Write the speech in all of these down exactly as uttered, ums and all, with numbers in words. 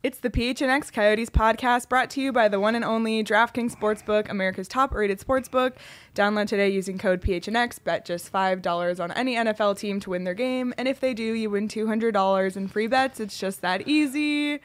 It's the P H N X Coyotes podcast brought to you by the one and only DraftKings Sportsbook, America's top-rated sportsbook. Download today using code P H N X. Bet just five dollars on any N F L team to win their game. And if they do, you win two hundred dollars in free bets. It's just that easy.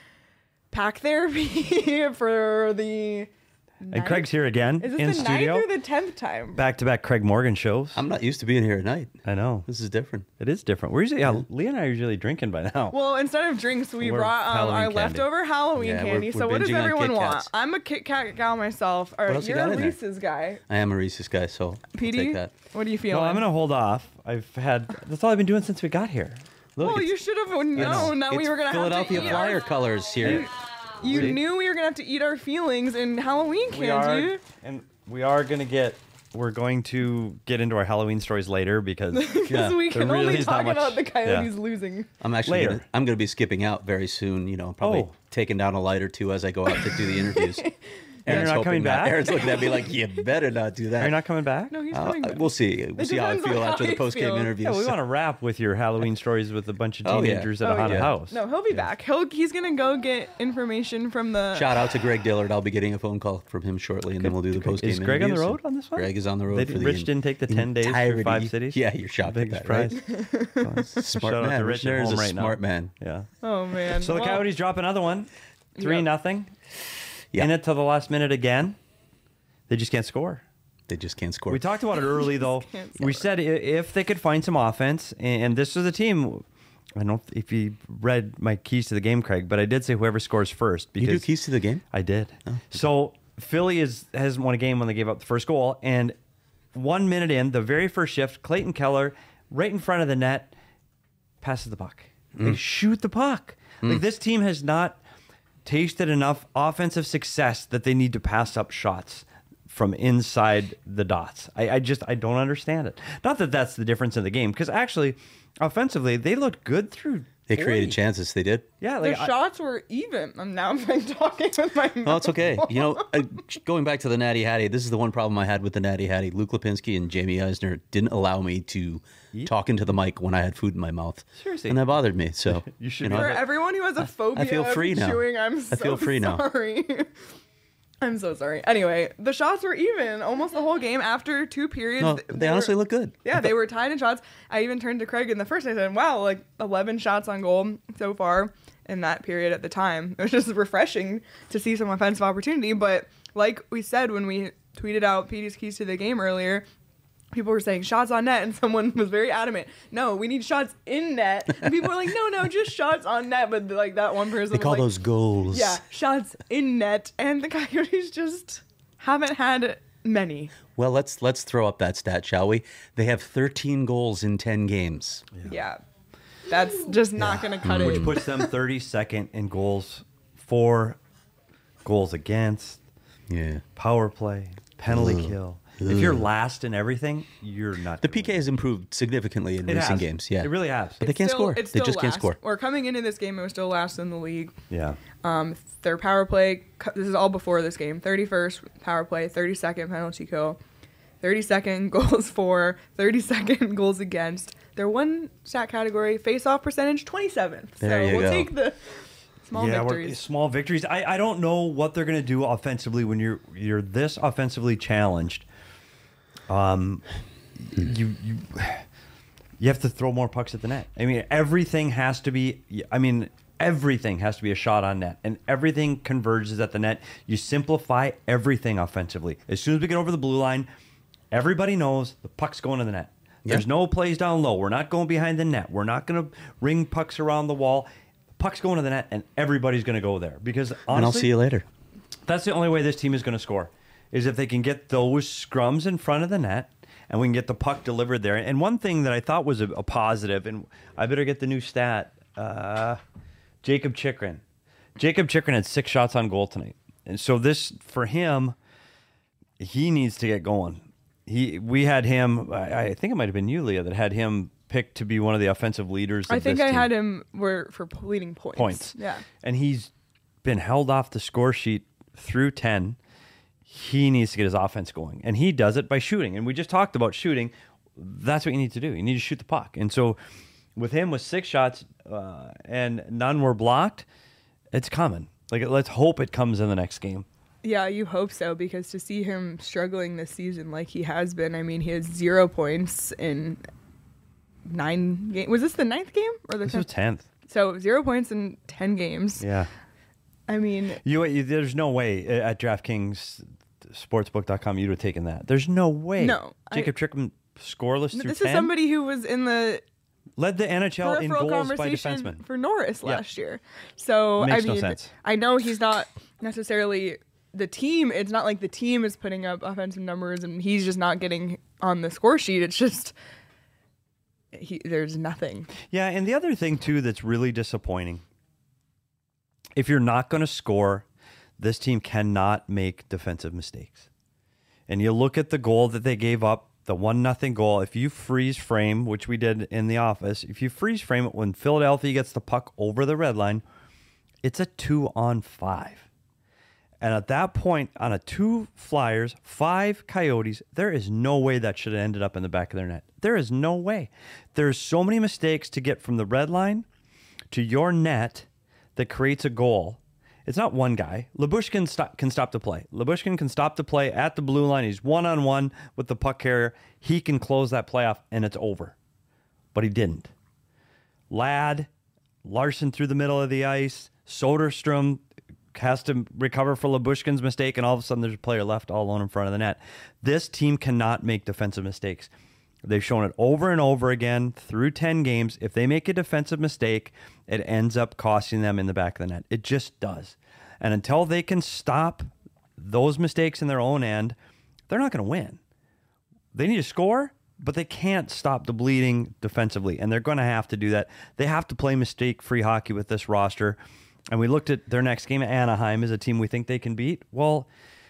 Pack therapy for the... And ninth? Craig's here again Is this in the studio. ninth or the tenth time? Back-to-back Craig Morgan shows. I'm not used to being here at night. I know. This is different. It is different. We're usually, yeah, Leah and I are usually drinking by now. Well, instead of drinks, we We're brought um, Halloween our candy. leftover Halloween Yeah, we're- candy. we're so what does binging on everyone Kit want? Kats. I'm a Kit Kat gal myself. Or else you you're got a in there? Reese's guy. I am a Reese's guy, so I'll P D, take that. what do you feel? No, I'm going to hold off. I've had, that's all I've been doing since we got here. Look, Well, it's- you should have known it's- that we it's were going to have to Philadelphia eat Flyer our, colors here. You See? knew we were going to have to eat our feelings in Halloween We candy. are, and we are going to get, we're going to get into our Halloween stories later because Because Yeah, we there can really only is not talk much- about the Coyotes yeah. losing. I'm actually Later. gonna, I'm going to be skipping out very soon. You know, probably Oh. taking down a light or two as I go out to do the interviews. you're Aaron's not hoping coming not. back? Aaron's looking at me like, you better not do that. Are you not coming back? No, he's Uh, coming back. we'll see. We'll see how I depends on feel how after the he post-game feels. interviews. Yeah, we want to wrap with your Halloween stories with a bunch of Oh, yeah. teenagers at Oh, a haunted yeah. house. No, he'll be back. He'll He's going to go get information from the... Shout out to Greg Dillard. I'll be getting a phone call from him shortly, and then we'll do the post-game Is Greg on the interviews. road on this one? Greg is on the road They for did- the Rich didn't take the ten days through entirety. five cities? Yeah, you're shocked Big at that, right? surprise. Smart Shout out man. to Rich Rich at there is home a right now. smart man. Yeah. Oh, man. So the Well, Coyotes drop another one, three Yep. nothing. Yeah. In it till the last minute again. They just can't score. They just can't score. We talked about it early though. can't We score. said i- if they could find some offense, and this is a team. I don't know if you read my keys to the game, Craig, but I did say whoever scores first you because do keys to the game? I did. So Philly is hasn't won a game when they gave up the first goal, and one minute in, the very first shift, Clayton Keller, right in front of the net, passes the puck. They shoot the puck. Like this team has not tasted enough offensive success that they need to pass up shots from inside the dots. I, I just I don't understand it. Not that that's the difference in the game, because actually, offensively, they looked good through. They created forty. chances. They did. Yeah, The like I- shots were even. I'm now I'm talking with my mouth. Well, it's okay. You know, uh, going back to the Natty Hattie, this is the one problem I had with the Natty Hattie. Luke Lipinski and Jamie Eisner didn't allow me to talk into the mic when I had food in my mouth. Seriously. And that bothered me. So You should know, be- For everyone who has a phobia feel free of now. chewing, I'm so I feel free now. sorry. I'm so sorry. Anyway, the shots were even almost the whole game after two periods. no, th- they honestly were, look good. Yeah, they were tied in shots. I even turned to Craig in the first. I said, "Wow, like eleven shots on goal so far in that period at the time." It was just refreshing to see some offensive opportunity. But like we said when we tweeted out P D's keys to the game earlier, people were saying shots on net, and someone was very adamant. No, we need shots in net. And people were like, no, no, just shots on net. But like that one person, They was call like, those goals. yeah, shots in net, and the Coyotes just haven't had many. Well, let's let's throw up that stat, shall we? They have thirteen goals in ten games. Yeah, that's just not going to cut it. which puts them thirty-second in goals for, goals against, Yeah. power play, penalty kill. If you're last in everything, you're not. The P K has improved significantly in It recent has. games. Yeah. It really has. But they can't Still- score. it's They still just can't last. score. Or coming into this game, it was still last in the league. Yeah. Um, their power play. This is all before this game. thirty-first power play, thirty-second penalty kill, thirty-second goals for, thirty-second goals against. Their one stat category, face-off percentage, twenty-seventh. There so you we'll go. take the small yeah, we're- victories. small victories. I, I don't know what they're going to do offensively when you're you're this offensively challenged. Um, you you you have to throw more pucks at the net. I mean, everything has to be. I mean, everything has to be a shot on net, and everything converges at the net. You simplify everything offensively. As soon as we get over the blue line, everybody knows the puck's going to the net. There's Yeah. no plays down low. We're not going behind the net. We're not going to ring pucks around the wall. Puck's going to the net, and everybody's going to go there because honestly, And I'll see you later. that's the only way this team is going to score, is if they can get those scrums in front of the net and we can get the puck delivered there. And one thing that I thought was a, a positive, and I better get the new stat, uh, Jacob Chikrin. Jacob Chikrin had six shots on goal tonight. And so this, for him, he needs to get going. He, we had him, I, I think it might have been you, Leah, that had him picked to be one of the offensive leaders of I think this I team. had him were for leading points. Points. Yeah. And he's been held off the score sheet through ten. He needs to get his offense going. And he does it by shooting. And we just talked about shooting. That's what you need to do. You need to shoot the puck. And so with him with six shots uh, and none were blocked, It's coming. Like, let's hope it comes in the next game. Yeah, you hope so, because to see him struggling this season like he has been, I mean, he has zero points in nine games. Was this the ninth game or the This was tenth? tenth. So zero points in ten games. Yeah. I mean, You, you there's no way at DraftKings Sportsbook dot com you'd have taken that. There's no way. No, Jacob I- Trickham scoreless through this ten. is somebody who was in the Led the N H L in peripheral goals by conversation defensemen. for Norris Yeah. last year. So Makes I no mean, sense. I know he's not necessarily the team. It's not like the team is putting up offensive numbers and he's just not getting on the score sheet. It's just he, there's nothing. Yeah, and the other thing too that's really disappointing. If you're not going to score, this team cannot make defensive mistakes. And you look at the goal that they gave up, the one nothing goal. If you freeze frame, which we did in the office, if you freeze frame it when Philadelphia gets the puck over the red line, it's a two on five. And at that point, on a two Flyers, five Coyotes, there is no way that should have ended up in the back of their net. There is no way. There's so many mistakes to get from the red line to your net that creates a goal. It's not one guy. Lyubushkin stop, can stop the play. Lyubushkin can stop the play at the blue line. He's one-on-one with the puck carrier. He can close that play off, and it's over. But he didn't. Ladd, Larson through the middle of the ice. Soderstrom has to recover for Lyubushkin's mistake, and all of a sudden there's a player left all alone in front of the net. This team cannot make defensive mistakes. They've shown it over and over again through ten games. If they make a defensive mistake, it ends up costing them in the back of the net. It just does. And until they can stop those mistakes in their own end, they're not going to win. They need to score, but they can't stop the bleeding defensively, and they're going to have to do that. They have to play mistake-free hockey with this roster. And we looked at their next game at Anaheim as a team we think they can beat. Well,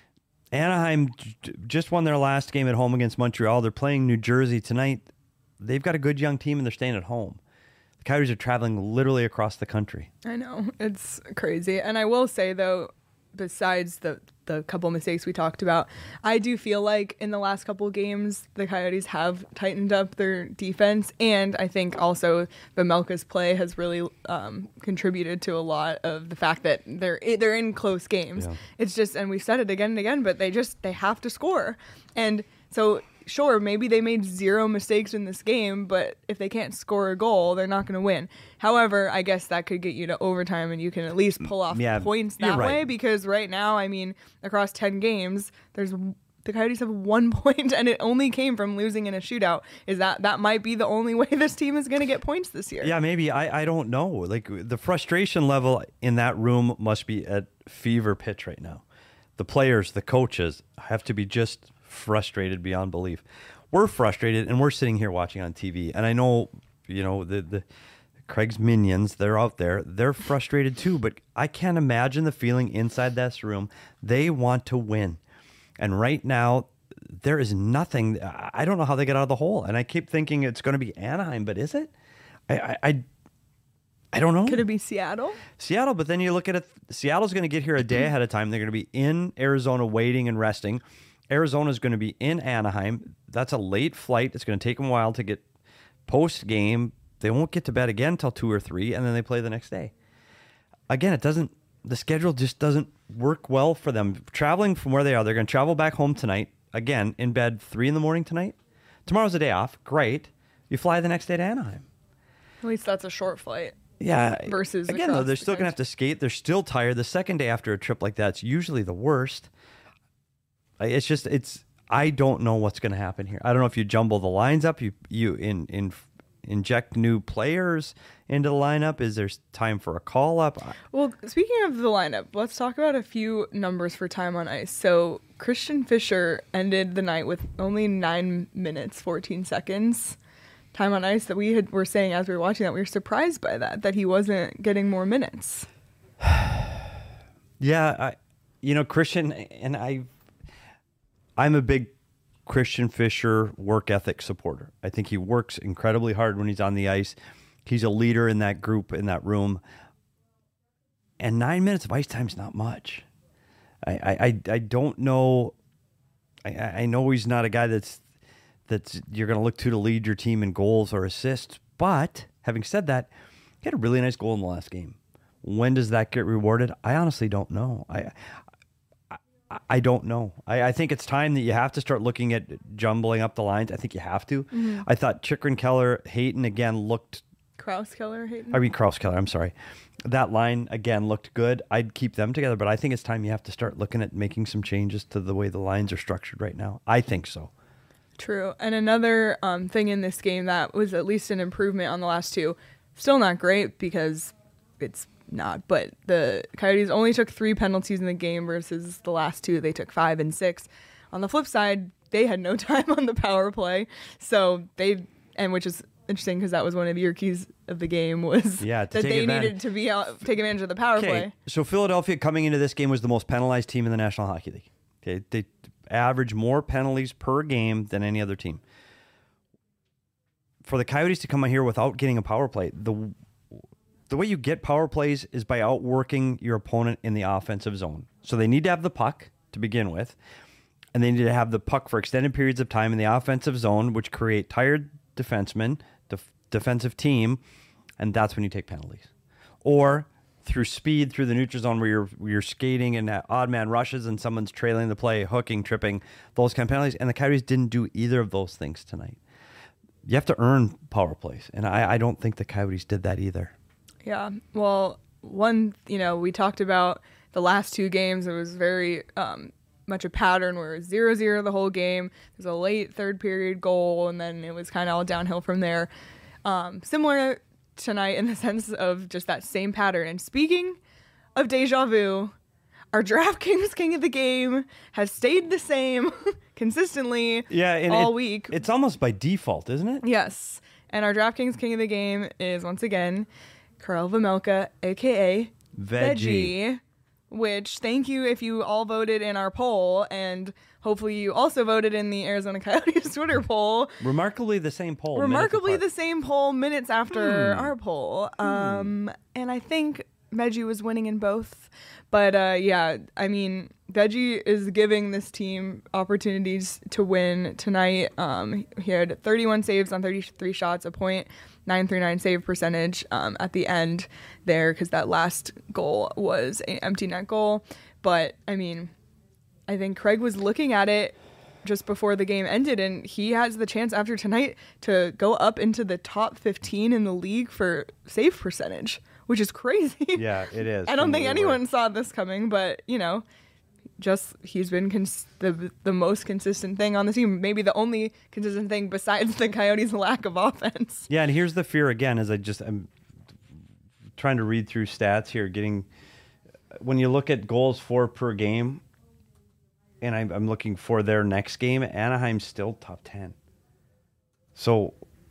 Anaheim j- just won their last game at home against Montreal. They're playing New Jersey tonight. They've got a good young team, and they're staying at home. The Coyotes are traveling literally across the country. I know, it's crazy. And I will say, though, besides the the couple mistakes we talked about, I do feel like in the last couple games, the Coyotes have tightened up their defense. And I think also Vejmelka's play has really um, contributed to a lot of the fact that they're they're in close games. Yeah. It's just, and we've said it again and again, but they just, they have to score. And so, sure, maybe they made zero mistakes in this game, but if they can't score a goal, they're not going to win. However, I guess that could get you to overtime, and you can at least pull off Yeah, points you're that right. way, because right now, I mean, across ten games, there's the Coyotes have one point, and it only came from losing in a shootout. Is that that might be the only way this team is going to get points this year? Yeah, maybe. I, I don't know. Like, the frustration level in that room must be at fever pitch right now. The players, the coaches have to be just frustrated beyond belief. We're frustrated, and we're sitting here watching on T V. And I know, you know, the the Craig's minions, they're out there. They're frustrated too, but I can't imagine the feeling inside this room. They want to win. And right now, there is nothing. I don't know how they get out of the hole. And I keep thinking it's going to be Anaheim, but is it? I I, I, I don't know. Could it be Seattle? Seattle, but then you look at it, Seattle's going to get here a day ahead of time. They're going to be in Arizona waiting and resting. Arizona's going to be in Anaheim. That's a late flight. It's going to take them a while to get post-game. They won't get to bed again until two or three, and then they play the next day. Again, it doesn't, the schedule just doesn't work well for them. Traveling from where they are, they're going to travel back home tonight. Again, in bed three in the morning tonight. Tomorrow's a day off. Great. You fly the next day to Anaheim. At least that's a short flight. Yeah. Versus again, though, across they're the still going to have country. to skate. They're still tired. The second day after a trip like that's usually the worst. It's just, it's, I don't know what's going to happen here. I don't know if you jumble the lines up, you you in, in inject new players into the lineup. Is there time for a call up? Well, speaking of the lineup, let's talk about a few numbers for time on ice. So Christian Fischer ended the night with only nine minutes, fourteen seconds time on ice. That we had were saying as we were watching that, we were surprised by that, that he wasn't getting more minutes. Yeah, I, you know, Christian, and I, I'm a big Christian Fischer work ethic supporter. I think he works incredibly hard when he's on the ice. He's a leader in that group, in that room. And nine minutes of ice time is not much. I, I, I, I don't know. I, I know he's not a guy that's that's you're going to look to to lead your team in goals or assists. But having said that, he had a really nice goal in the last game. When does that get rewarded? I honestly don't know. I I, I don't know. I, I think it's time that you have to start looking at jumbling up the lines. I think you have to. Mm-hmm. I thought Chychrun, Keller, Hayton again looked. Kraus, Keller, Hayton. I mean Kraus, Keller. I'm sorry. That line again looked good. I'd keep them together, but I think it's time you have to start looking at making some changes to the way the lines are structured right now. I think so. True. And another um, thing in this game that was at least an improvement on the last two, still not great because it's not, but the Coyotes only took three penalties in the game versus the last two. They took five and six. On the flip side, they had no time on the power play. So they, and which is interesting because that was one of your keys of the game was yeah, that they advantage. needed to be out, take advantage of the power okay, play. So Philadelphia coming into this game was the most penalized team in the National Hockey League. Okay, they average more penalties per game than any other team. For the Coyotes to come out here without getting a power play, the the way you get power plays is by outworking your opponent in the offensive zone. So they need to have the puck to begin with, and they need to have the puck for extended periods of time in the offensive zone, which create tired defensemen, def- defensive team, and that's when you take penalties. Or through speed, through the neutral zone where you're where you're skating and odd man rushes and someone's trailing the play, hooking, tripping, those kind of penalties. And the Coyotes didn't do either of those things tonight. You have to earn power plays, and I, I don't think the Coyotes did that either. Yeah, well, one, you know, we talked about the last two games. It was very um, much a pattern where it was zero zero the whole game. There's a late third period goal, and then it was kind of all downhill from there. Um, similar tonight in the sense of just that same pattern. And speaking of deja vu, our DraftKings King of the Game has stayed the same consistently yeah, and all it, week. It's almost by default, isn't it? Yes. And our DraftKings King of the Game is, once again, Karel Vejmelka, a k a. Veggie. Veggie, which, thank you if you all voted in our poll, and hopefully you also voted in the Arizona Coyotes Twitter poll. Remarkably the same poll. Remarkably the same poll minutes after hmm. our poll. Um, and I think Veggie was winning in both. But uh, yeah, I mean, Veggie is giving this team opportunities to win tonight. Um, he had thirty-one saves on thirty-three shots, a point nine three nine save percentage um, at the end there because that last goal was an empty net goal. But I mean, I think Craig was looking at it just before the game ended, and he has the chance after tonight to go up into the top fifteen in the league for save percentage, which is crazy. Yeah, it is. I don't think anyone right. saw this coming, but, you know, just he's been cons- the the most consistent thing on the team. Maybe the only consistent thing besides the Coyotes' lack of offense. Yeah, and here's the fear again, as I just, I'm trying to read through stats here, getting, when you look at goals for per game, and I'm, I'm looking for their next game, Anaheim's still top ten. So,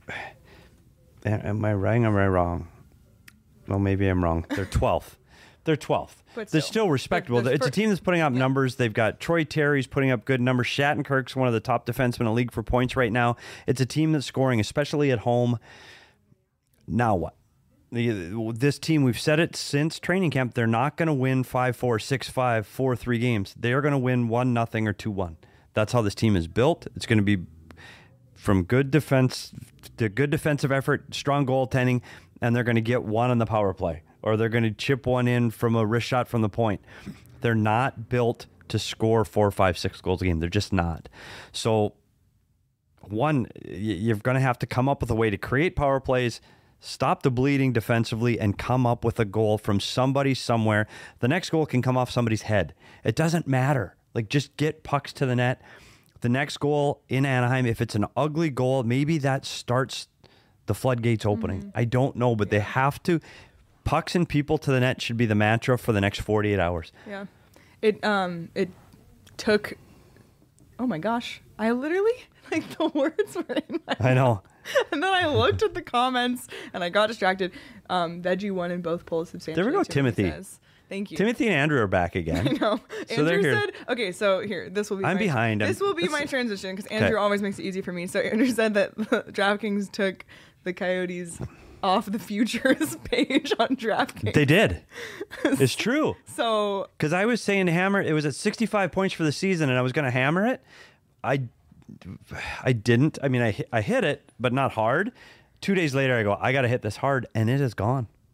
am I right or am I wrong? Well, maybe I'm wrong. They're twelfth. They're twelfth. But They're still, still respectable. But it's a team that's putting up yeah. numbers. They've got Troy Terry's putting up good numbers. Shattenkirk's one of the top defensemen in the league for points right now. It's a team that's scoring, especially at home. Now what? The, this team, we've said it since training camp, they're not going to win five four, six five, four three games. They are going to win one nothing or two one. That's how this team is built. It's going to be from good defense to good defensive effort, strong goaltending, and they're going to get one on the power play, or they're going to chip one in from a wrist shot from the point. They're not built to score four, five, six goals a game. They're just not. So, one, you're going to have to come up with a way to create power plays, stop the bleeding defensively, and come up with a goal from somebody somewhere. The next goal can come off somebody's head. It doesn't matter. Like, just get pucks to the net. The next goal in Anaheim, if it's an ugly goal, maybe that starts the floodgates opening. Mm-hmm. I don't know, but they have to. Pucks and people to the net should be the mantra for the next forty-eight hours. Yeah. It um it took, oh my gosh, I literally, like, the words were in my I know. And then I looked at the comments and I got distracted. Um, Veggie won in both polls substantially. There we go, Timothy. Says. Thank you. Timothy and Andrew are back again. I know. So Andrew they're here. said, okay, so here, this will be I'm my, behind. This I'm, will be my transition because Andrew okay. always makes it easy for me. So Andrew said that DraftKings took the Coyotes off the futures page on DraftKings. They did. It's true. So, because I was saying hammer, it was at sixty-five points for the season, and I was going to hammer it. I, I didn't. I mean, I I hit it, but not hard. Two days later, I go, I got to hit this hard, and it is gone.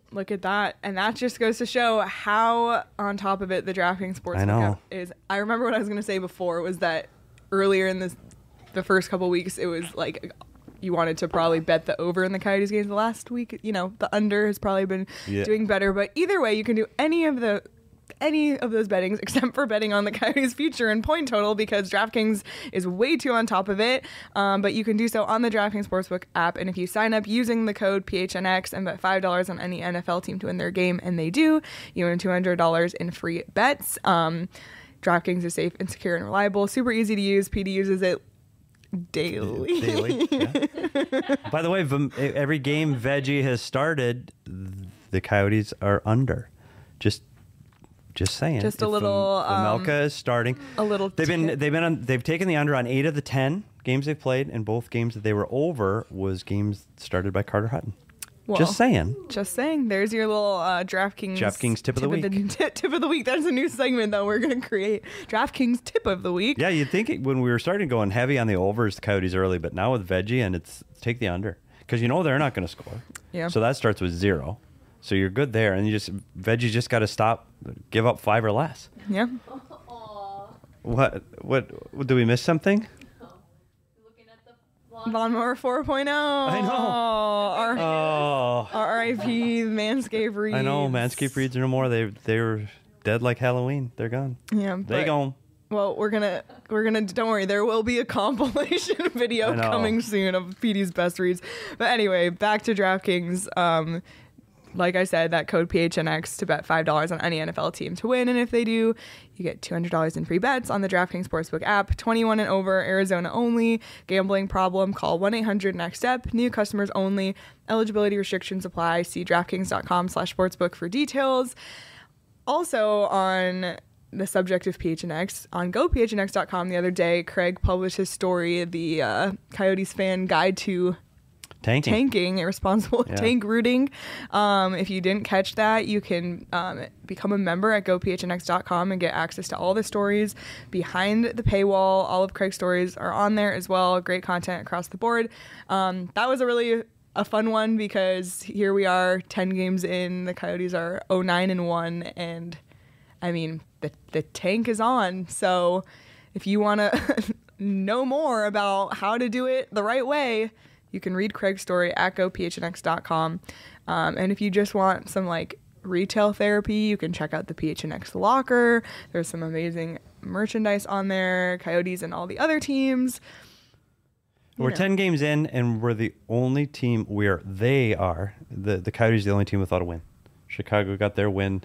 Look at that. And that just goes to show how on top of it the DraftKings Sportsbook I know. app is. I remember what I was going to say before was that earlier in this, the first couple weeks, it was like you wanted to probably bet the over in the Coyotes games. The last week, you know, the under has probably been Yeah. doing better. But either way, you can do any of the any of those bettings except for betting on the Coyotes future and point total because DraftKings is way too on top of it. Um, but you can do so on the DraftKings Sportsbook app. And if you sign up using the code P H N X and bet five dollars on any N F L team to win their game, and they do, you earn two hundred dollars in free bets. Um, DraftKings is safe and secure and reliable. Super easy to use. P D uses it daily. Daily. Yeah. By the way, Vem- every game Veggie has started, the Coyotes are under. Just Just saying. Just a If little, um, Vejmelka is starting. a little They've been tip. they've been on, they've taken the under on eight of the ten games they've played, and both games that they were over was games started by Carter Hutton. Well, Just saying. Just saying. There's your little uh, DraftKings. DraftKings tip of the week. tip of the week. That's a new segment that we're going to create. DraftKings tip of the week. Yeah, you'd think it, when we were starting going heavy on the overs, the Coyotes early, but now with Veggie, and it's take the under because you know they're not going to score. Yeah. So that starts with zero. So you're good there, and you just Veggie just got to stop, give up five or less. Yeah. What? What? what do we miss something? Lawnmower four point oh. I know. Our, Oh, R I P Manscaped Reeds. I know. Manscaped Reeds are no more. They they were dead like Halloween. They're gone. Yeah. They but- gone. Well, we're gonna we're gonna don't worry, there will be a compilation video I know. coming soon of P D's best reads. But anyway, back to DraftKings. Um, like I said, that code P H N X to bet five dollars on any N F L team to win, and if they do, you get two hundred dollars in free bets on the DraftKings Sportsbook app. twenty-one and over, Arizona only. Gambling problem? Call one eight hundred next step. New customers only. Eligibility restrictions apply. See DraftKings dot com slash sportsbook for details. Also on the subject of P H N X, on go P H N X dot com the other day, Craig published his story, the uh, Coyotes fan guide to Tanking. tanking, irresponsible Yeah. tank rooting. Um, if you didn't catch that, you can um, become a member at go P H N X dot com and get access to all the stories behind the paywall. All of Craig's stories are on there as well. Great content across the board. Um, that was a really a fun one because here we are, ten games in. The Coyotes are oh nine and one, and I mean the the tank is on. So if you want to know more about how to do it the right way, you can read Craig's story at go P H N X dot com. Um, and if you just want some like retail therapy, you can check out the P H N X locker. There's some amazing merchandise on there, Coyotes and all the other teams. You We're know. ten games in, and we're the only team where they are. The the Coyotes are the only team without a win. Chicago got their win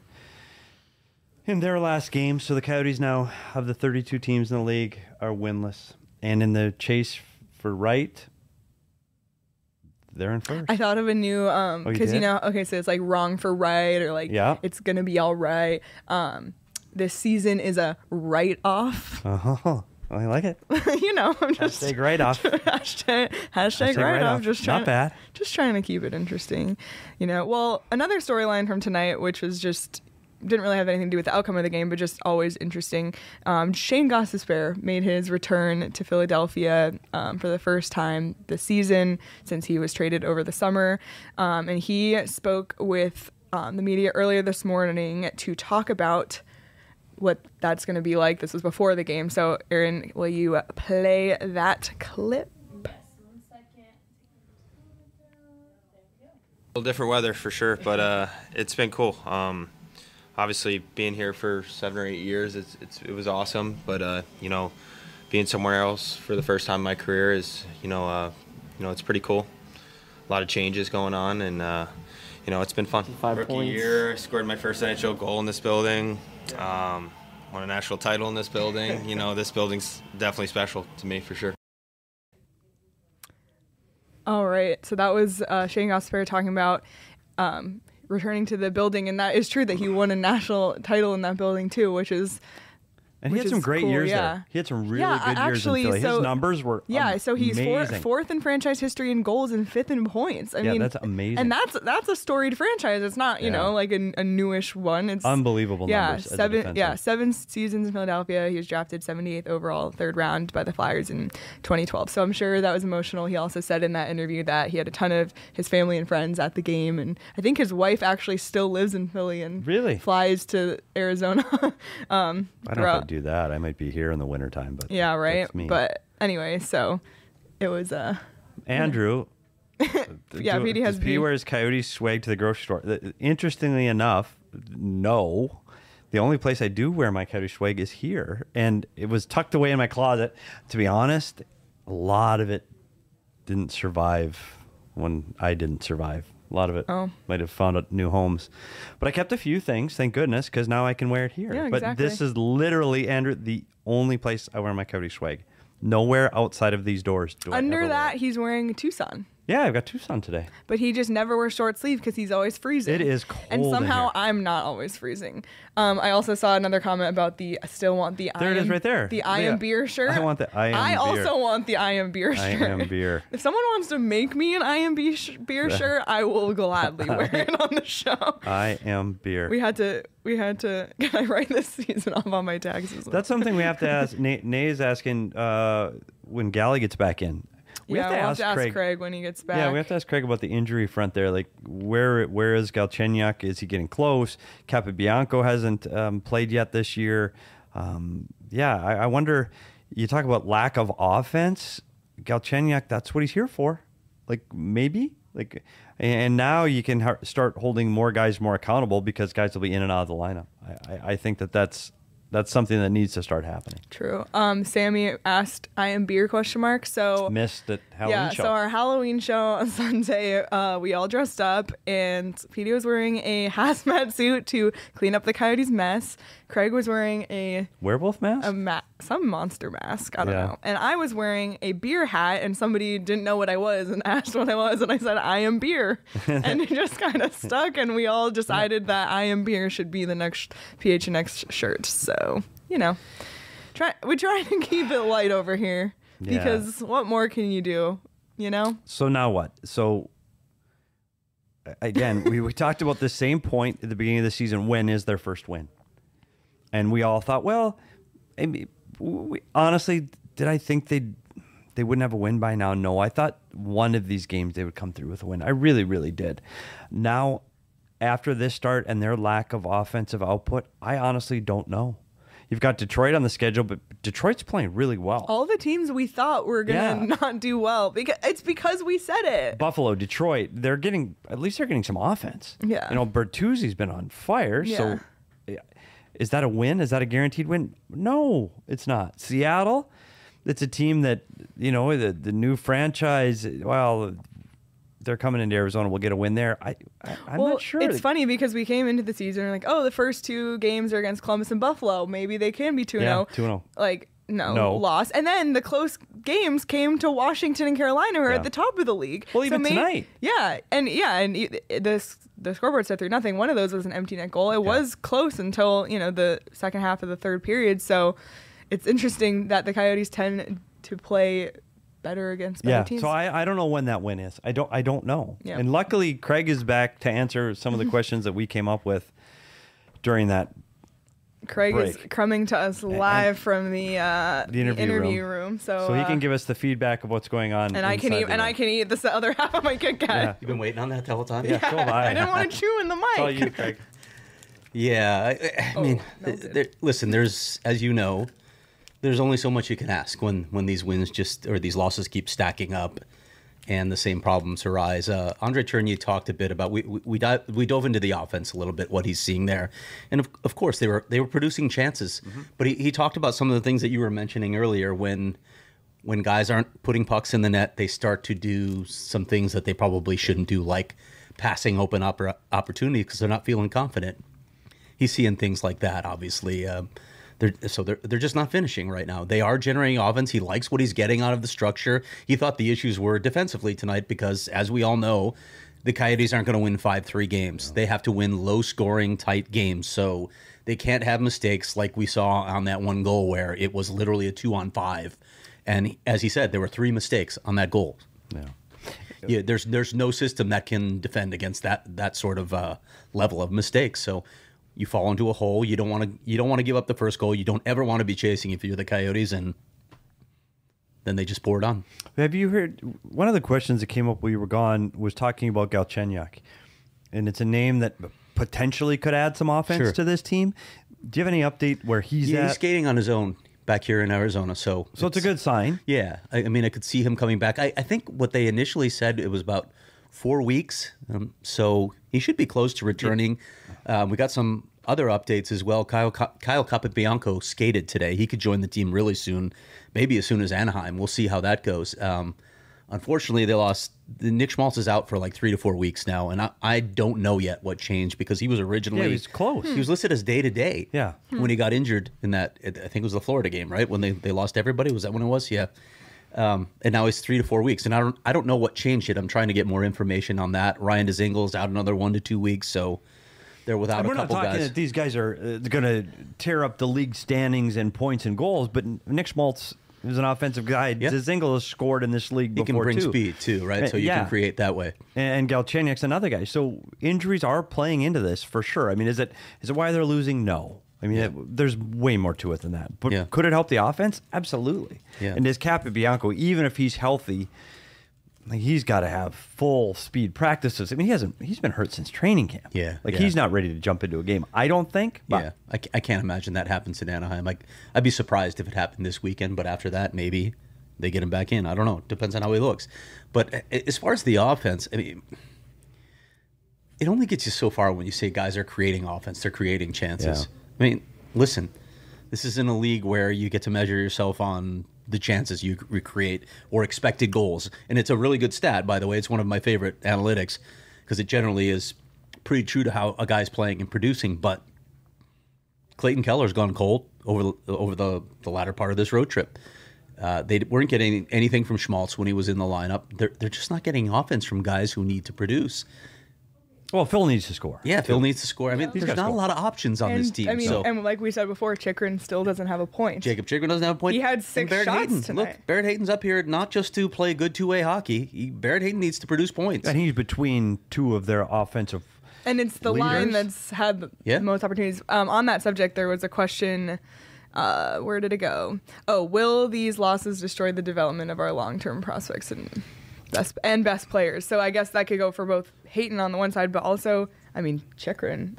in their last game, so the Coyotes now, of the thirty-two teams in the league, are winless. And in the chase for right, they're in first. I thought of a new um Oh, you because you, did? know okay so it's like wrong for right or like Yeah. it's gonna be all right. Um, this season is a write off. Oh, I like it. You know, I'm just Hashtag write-off. hashtag, hashtag, Hashtag write write-off. off. Just Not trying, bad. Just trying to keep it interesting, you know. Well, another storyline from tonight, which was just didn't really have anything to do with the outcome of the game, but just always interesting. Um, Shane Gostisbehere made his return to Philadelphia um, for the first time this season since he was traded over the summer, um, and he spoke with um, the media earlier this morning to talk about what that's going to be like. This was before the game. So, Aaron, will you play that clip? A little different weather for sure, but uh, it's been cool. Um, obviously, being here for seven or eight years, it's, it's it was awesome. But uh, you know, being somewhere else for the first time in my career is you know uh, you know it's pretty cool. A lot of changes going on, and uh, you know it's been fun. Five Rookie points. year, scored my first N H L goal in this building. Um, won a national title in this building. You know, this building's definitely special to me for sure. All right. So that was uh, Shane Gostisbehere talking about um, returning to the building, and that is true that he won a national title in that building too, which is And he which had some is great cool, years yeah. there. He had some really Yeah, good years actually, in Philly. so- His numbers were Yeah, so he's four, amazing. fourth in franchise history in goals and fifth in points. I Yeah, mean, that's amazing. And that's that's a storied franchise. It's not you Yeah. know like a, a newish one. It's Unbelievable yeah, numbers as a seven defenseman. yeah seven seasons in Philadelphia. He was drafted seventy-eighth overall, third round by the Flyers in twenty twelve. So I'm sure that was emotional. He also said in that interview that he had a ton of his family and friends at the game, and I think his wife actually still lives in Philly and Really? flies to Arizona. um, I don't know if throughout- I'd do that. I might be here in the wintertime, but Yeah, right. that's me. But anyway, so it was uh Andrew. Yeah, do- Petey has does Petey B. wear his Coyote swag to the grocery store? The- Interestingly enough, no. The only place I do wear my Coyote swag is here, and it was tucked away in my closet. To be honest, a lot of it didn't survive when I didn't survive. A lot of it Oh. might have found out new homes, but I kept a few things, thank goodness, because now I can wear it here. Yeah, but exactly. this is literally, Andrew, the only place I wear my Coyote swag. Nowhere outside of these doors do I under ever that wear it. he's wearing a Tucson. Yeah, I've got Tucson today. But he just never wears short sleeve because he's always freezing. It is And cold in somehow here. I'm not always freezing. Um, I also saw another comment about the I still want the There I it is am, right there. The I Yeah. am beer shirt. I want the I am I beer. also want the I am beer I shirt. am beer. If someone wants to make me an I am beer, sh- beer shirt, I will gladly wear it on the show. I am beer. We had to we had to can I write this season off on my taxes? That's something we have to ask. Nate, Nate is asking uh, when Galley gets back in. We yeah, have to we'll ask have to ask Craig. Craig. when he gets back. Yeah, we have to ask Craig about the injury front there. Like, where where is Galchenyuk? Is he getting close? Capobianco hasn't um, played yet this year. Um, yeah, I, I wonder. You talk about lack of offense. Galchenyuk, that's what he's here for. Like, maybe. Like, and now you can ha- start holding more guys more accountable because guys will be in and out of the lineup. I, I, I think that that's that's something that needs to start happening. True. Um, Sammy asked, "I am beer?" question mark. So Missed at Halloween yeah, show. so our Halloween show on Sunday, uh, we all dressed up, and Petey was wearing a hazmat suit to clean up the Coyotes' mess. Craig was wearing a Werewolf mask? a ma- some monster mask, I don't Yeah. know, and I was wearing a beer hat, and somebody didn't know what I was and asked what I was, and I said I am beer, and it just kind of stuck, and we all decided that I am beer should be the next P H N X shirt. So you know, try we try to keep it light over here Yeah. because what more can you do? You know. So now what? So a- again, we, we talked about the same point at the beginning of the season. When is their first win? And we all thought, well, I mean, we, honestly, did I think they they wouldn't have a win by now? No, I thought one of these games they would come through with a win. I really, really did. Now, after this start and their lack of offensive output, I honestly don't know. You've got Detroit on the schedule, but Detroit's playing really well. All the teams we thought were gonna Yeah. not do well because it's because we said it. Buffalo, Detroit, they're getting, at least they're getting some offense. Yeah. You know, Bertuzzi's been on fire. Yeah. So yeah. Is that a win? Is that a guaranteed win? No, it's not. Seattle, it's a team that, you know, the, the new franchise, well, they're coming into Arizona. We'll get a win there. I, I, I'm well, not sure. It's funny because we came into the season like, oh, the first two games are against Columbus and Buffalo. Maybe they can be two and Yeah, oh. two and oh. Like, no, No. loss. And then the close games came to Washington and Carolina, who are Yeah. at the top of the league. Well, even may- tonight. Yeah, and yeah, and y- the the scoreboard said three nothing. One of those was an empty net goal. It was close until you know the second half of the third period. So it's interesting that the Coyotes tend to play better against better Yeah, teams. so I, I don't know when that win is. I don't I don't know. Yeah. And luckily, Craig is back to answer some of the questions that we came up with during that Craig is break. coming to us live from the uh, the interview room. room. So so he can uh, give us the feedback of what's going on. and I can inside eat the and room. I can eat this other half of my Kit Kat. Yeah. You've been waiting on that the whole time? Yeah, so have I. I didn't want to chew in the mic. It's all you, Craig. Yeah, I, I Oh, mean, melted. there, listen. There's, as you know, there's only so much you can ask when when these wins just or these losses keep stacking up, and the same problems arise. Uh, Andre Tournier talked a bit about we we we, dive, we dove into the offense a little bit, what he's seeing there, and of, of course they were they were producing chances, but he, he talked about some of the things that you were mentioning earlier when. When guys aren't putting pucks in the net, they start to do some things that they probably shouldn't do, like passing open oppor- opportunity because they're not feeling confident. He's seeing things like that, obviously. Um, they're, so they're they're just not finishing right now. They are generating offense. He likes what he's getting out of the structure. He thought the issues were defensively tonight because, as we all know, the Coyotes aren't going to win five three games. They have to win low-scoring, tight games. So they can't have mistakes like we saw on that one goal where it was literally a two-on-five. And as he said, there were three mistakes on that goal. Yeah. Yeah, there's there's no system that can defend against that that sort of uh, level of mistakes. So you fall into a hole. You don't want to you don't want to give up the first goal. You don't ever want to be chasing if you're the Coyotes, and then they just pour it on. Have you heard one of the questions that came up while you were gone was talking about Galchenyuk, and it's a name that potentially could add some offense Sure. to this team. Do you have any update where he's Yeah, at? he's skating on his own back here in Arizona. So so it's, a good sign. Yeah, I, I mean, I could see him coming back. I, I think what they initially said it was about four weeks, um, so he should be close to returning. Um, we got some other updates as well. Kyle Kyle Capobianco skated today. He could join the team really soon, maybe as soon as Anaheim. We'll see how that goes. Um, unfortunately, they lost. Nick Schmaltz is out for like three to four weeks now, and I, I don't know yet what changed because he was originally Yeah, he was close. He was listed as day to day. Yeah. when he got injured in that, I think it was the Florida game, right? When they, they lost everybody. Was that when it was? Yeah. Um, and now he's three to four weeks, and I don't I don't know what changed it. I'm trying to get more information on that. Ryan Dezingel's out another one to two weeks, so they're without And a we're not couple talking guys. that these guys are uh, going to tear up the league standings and points and goals, but Nick Schmaltz is an offensive guy. Yeah. Dzingel has scored in this league He before can bring too. speed too, right? Uh, So you yeah. can create that way. And Galchenyuk's another guy. So injuries are playing into this for sure. I mean, is it is it why they're losing? No. I mean, it, there's way more to it than that. But Yeah. could it help the offense? Absolutely. Yeah. And this Capobianco, even if he's healthy, like he's got to have full speed practices. I mean, he hasn't. He's been hurt since training camp. Yeah, Like yeah. he's not ready to jump into a game. I don't think. But Yeah, I, ca- I can't imagine that happens in Anaheim. Like, I'd be surprised if it happened this weekend, but after that, maybe they get him back in. I don't know. Depends on how he looks. But a- as far as the offense, I mean, it only gets you so far when you say guys are creating offense. They're creating chances. Yeah. I mean, listen, this is in a league where you get to measure yourself on the chances you recreate or expected goals. And it's a really good stat, by the way. It's one of my favorite analytics because it generally is pretty true to how a guy's playing and producing. But Clayton Keller's gone cold over the, over the, the latter part of this road trip. Uh, they weren't getting anything from Schmaltz when he was in the lineup. They're, they're just not getting offense from guys who need to produce. Well, Phil needs to score. Yeah, Phil needs to score. I mean, He's there's gotta not a score. lot of options on and, this team. I mean, so and like we said before, Chikrin still doesn't have a point. Jacob Chikrin doesn't have a point. He had And six Barrett shots Hayton. tonight. Look, Barrett Hayton's up here not just to play good two-way hockey. He, Barrett Hayton needs to produce points. And he's between two of their offensive. And it's the Leaders? line that's had the Yeah. most opportunities. Um, on that subject, there was a question. Uh, where did it go? Oh, will these losses destroy the development of our long-term prospects and best and best players? So I guess that could go for both Hayton on the one side, but also, I mean, Chikrin.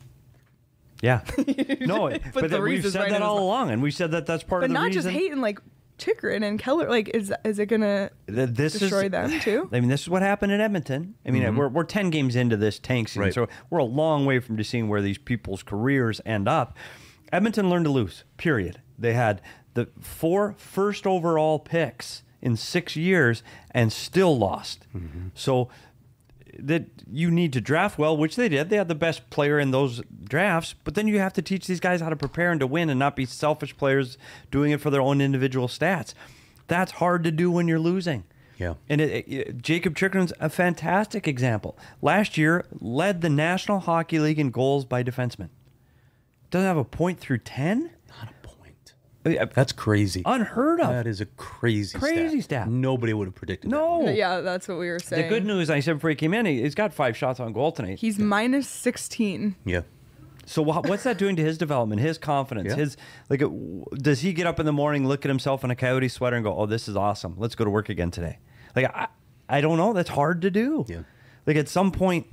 Yeah. No, Put but the that we've Reese's said right that in his all mouth. along, and we said that that's part But of the not reason. just Hayton, like Chikrin and Keller. Like, is is it gonna Th- this destroy is, them too? I mean, this is what happened in Edmonton. I mean, we're we're ten games into this tank season, Right. so we're a long way from just seeing where these people's careers end up. Edmonton learned to lose. Period. They had the four first overall picks in six years and still lost. So that you need to draft well, which they did. They had the best player in those drafts, but then you have to teach these guys how to prepare and to win and not be selfish players doing it for their own individual stats. That's hard to do when you're losing. Yeah. And it, it, Jacob Chikrin's a fantastic example. Last year, led the National Hockey League in goals by defensemen. Doesn't have a point through ten? Not a point. I mean, That's crazy. Unheard of. That is a crazy, Crazy stat. Nobody would have predicted that. No. Yeah, that's what we were saying. The good news, I said before he came in, he- he's got five shots on goal tonight. He's minus sixteen. Yeah. So wha- what's that doing to his development, his confidence, Yeah. his like? uh, w- Does he get up in the morning, look at himself in a Coyote sweater, and go, "Oh, this is awesome. Let's go to work again today"? Like I, I don't know. That's hard to do. Yeah. Like at some point,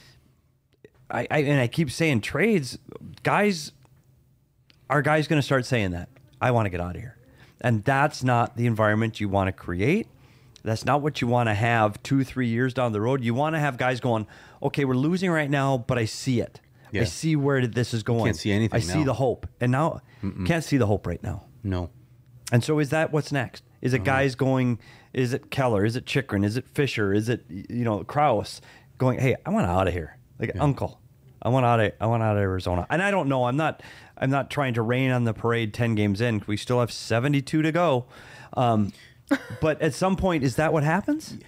I, I and I keep saying trades, guys. Are guys going to start saying that? I want to get out of here, and that's not the environment you want to create. That's not what you want to have two, three years down the road. You want to have guys going, okay, we're losing right now, but I see it. Yeah. I see where this is going. Can't see anything I see now. the hope. And now, can't see the hope right now. No. And so is that what's next? Is it guys going, is it Keller? Is it Chikrin? Is it Fisher? Is it, you know, Kraus going, hey, I want out of here. Like, uncle, I want out of, I want out of Arizona. And I don't know. I'm not, I'm not trying to rain on the parade ten games in. We still have seventy-two to go. Um, but at some point, is that what happens?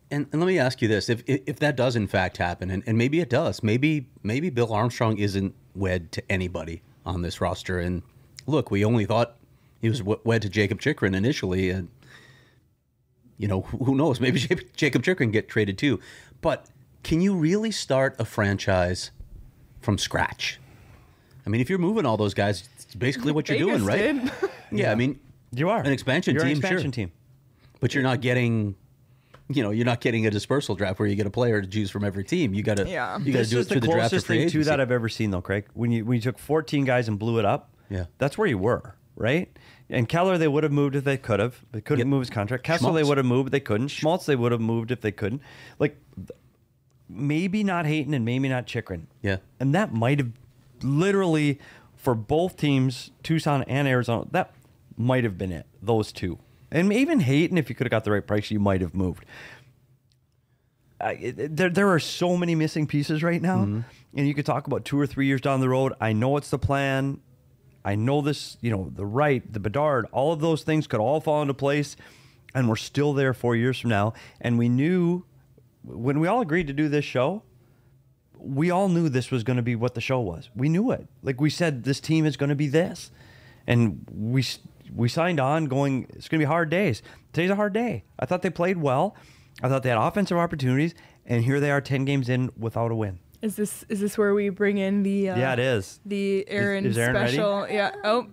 And, and let me ask you this: if if if that does in fact happen, and, and maybe it does, maybe maybe Bill Armstrong isn't wed to anybody on this roster. And look, we only thought he was w- wed to Jacob Chikrin initially, and you know who who knows? Maybe Jacob Chikrin get traded too. But can you really start a franchise from scratch? I mean, if you're moving all those guys, it's basically what you're Vegas doing, right? did. Yeah, I mean, You are an expansion You're team, an expansion sure. team. But you're not getting, you know, you're not getting a dispersal draft where you get a player to choose from every team. You got to, Yeah. you got to This do it is the through the draft or closest free thing to agency. that I've ever seen, though, Craig. When you when you took fourteen guys and blew it up, Yeah. that's where you were, right? And Keller, they would have moved if they could have. They couldn't Yep. move his contract. Kessel, Schmaltz. they would have moved, but they couldn't. Schmaltz, they would have moved if they couldn't. Like, maybe not Hayton and maybe not Chikrin. Yeah. And that might have literally, for both teams, Tucson and Arizona, that might have been it. Those two. And even Hayton, if you could have got the right price, you might have moved. I, it, there, there are so many missing pieces right now, Mm-hmm. and you could talk about two or three years down the road. I know it's the plan. I know this, you know, the right, the Bedard, all of those things could all fall into place, and we're still there four years from now. And we knew when we all agreed to do this show, we all knew this was going to be what the show was. We knew it. Like we said, this team is going to be this, and we we signed on going. It's going to be hard days. Today's a hard day. I thought they played well. I thought they had offensive opportunities, and here they are, ten games in without a win. Is this is this where we bring in the uh, Yeah, it is. the Aaron, is Aaron ready? special? Yeah. Oh.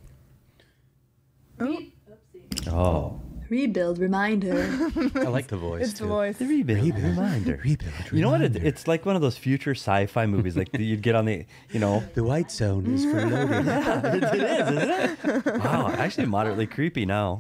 Oh, Oh, Rebuild reminder. I like the voice. it's the too. voice. the rebuild, reminder. Rebuild. You know what? It, it's like one of those future sci-fi movies, like you'd get on the, you know. The white zone is for loading. it, it is, isn't it? Wow, actually moderately creepy now.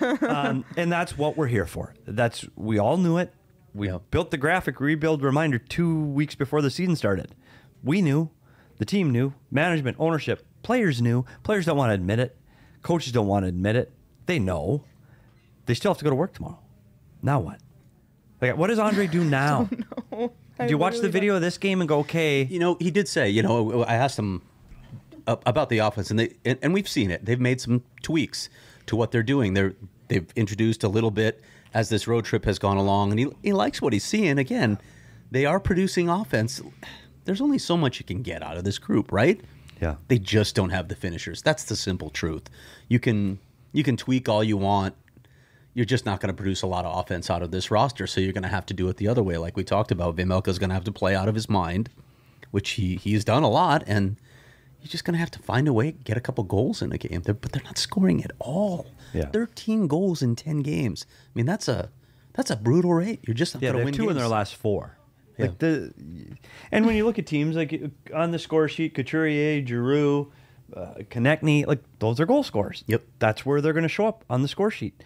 Um, and that's what we're here for. That's we all knew it. We Yeah. built the graphic rebuild reminder two weeks before the season started. We knew, the team knew, management, ownership, players knew. Players don't want to admit it. Coaches don't want to admit it. They know. They still have to go to work tomorrow. Now what? Like, what does Andre do now? No, I Do you watch the literally video of this game and go, okay? You know, he did say, you know, I asked him a- about the offense, and they and, and we've seen it. They've made some tweaks to what they're doing. They're they've introduced a little bit as this road trip has gone along, and he he likes what he's seeing. Again, they are producing offense. There's only so much you can get out of this group, right? Yeah. They just don't have the finishers. That's the simple truth. You can you can tweak all you want. You're just not going to produce a lot of offense out of this roster, so you're going to have to do it the other way, like we talked about. Vejmelka's going to have to play out of his mind, which he he's done a lot, and you're just going to have to find a way to get a couple goals in a game. They're, but they're not scoring at all. Yeah. thirteen goals in ten games. I mean, that's a that's a brutal rate. You're just not Yeah, going they to have win two games. in their last four. Yeah. Like the, and when you look at teams like on the score sheet, Couturier, Giroux, uh, Konechny, like those are goal scorers. Yep. That's where they're going to show up on the score sheet.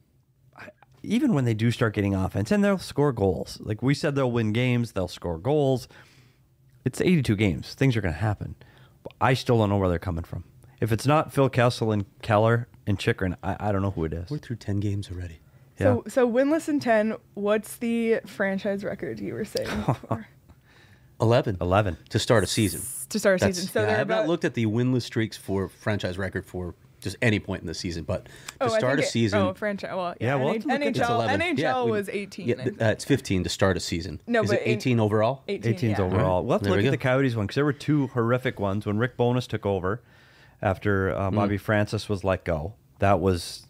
I- Even when they do start getting offense, and they'll score goals. Like we said, they'll win games, they'll score goals. It's eighty-two games. Things are going to happen. But I still don't know where they're coming from. If it's not Phil Kessel and Keller and Chikrin, I, I don't know who it is. We're through ten games already. So so winless in ten. What's the franchise record you were saying before? eleven. eleven. To start a season. To start a That's- season. So yeah, I they're have not about, looked at the winless streaks for franchise record for just any point in the season, but to oh, I start a think it- season, Oh, franchise. Well, yeah. Yeah, we'll N- have to look into it's N H L. eleven. N H L Yeah, we- was eighteen. Yeah, I th- think. uh, it's fifteen to start a season. No, Is but it in- eighteen overall? eighteen. eighteen's yeah. overall. We'll have to There look we at the go. Coyotes one because there were two horrific ones when Rick Bowness took over after uh, Bobby Francis was let go. That was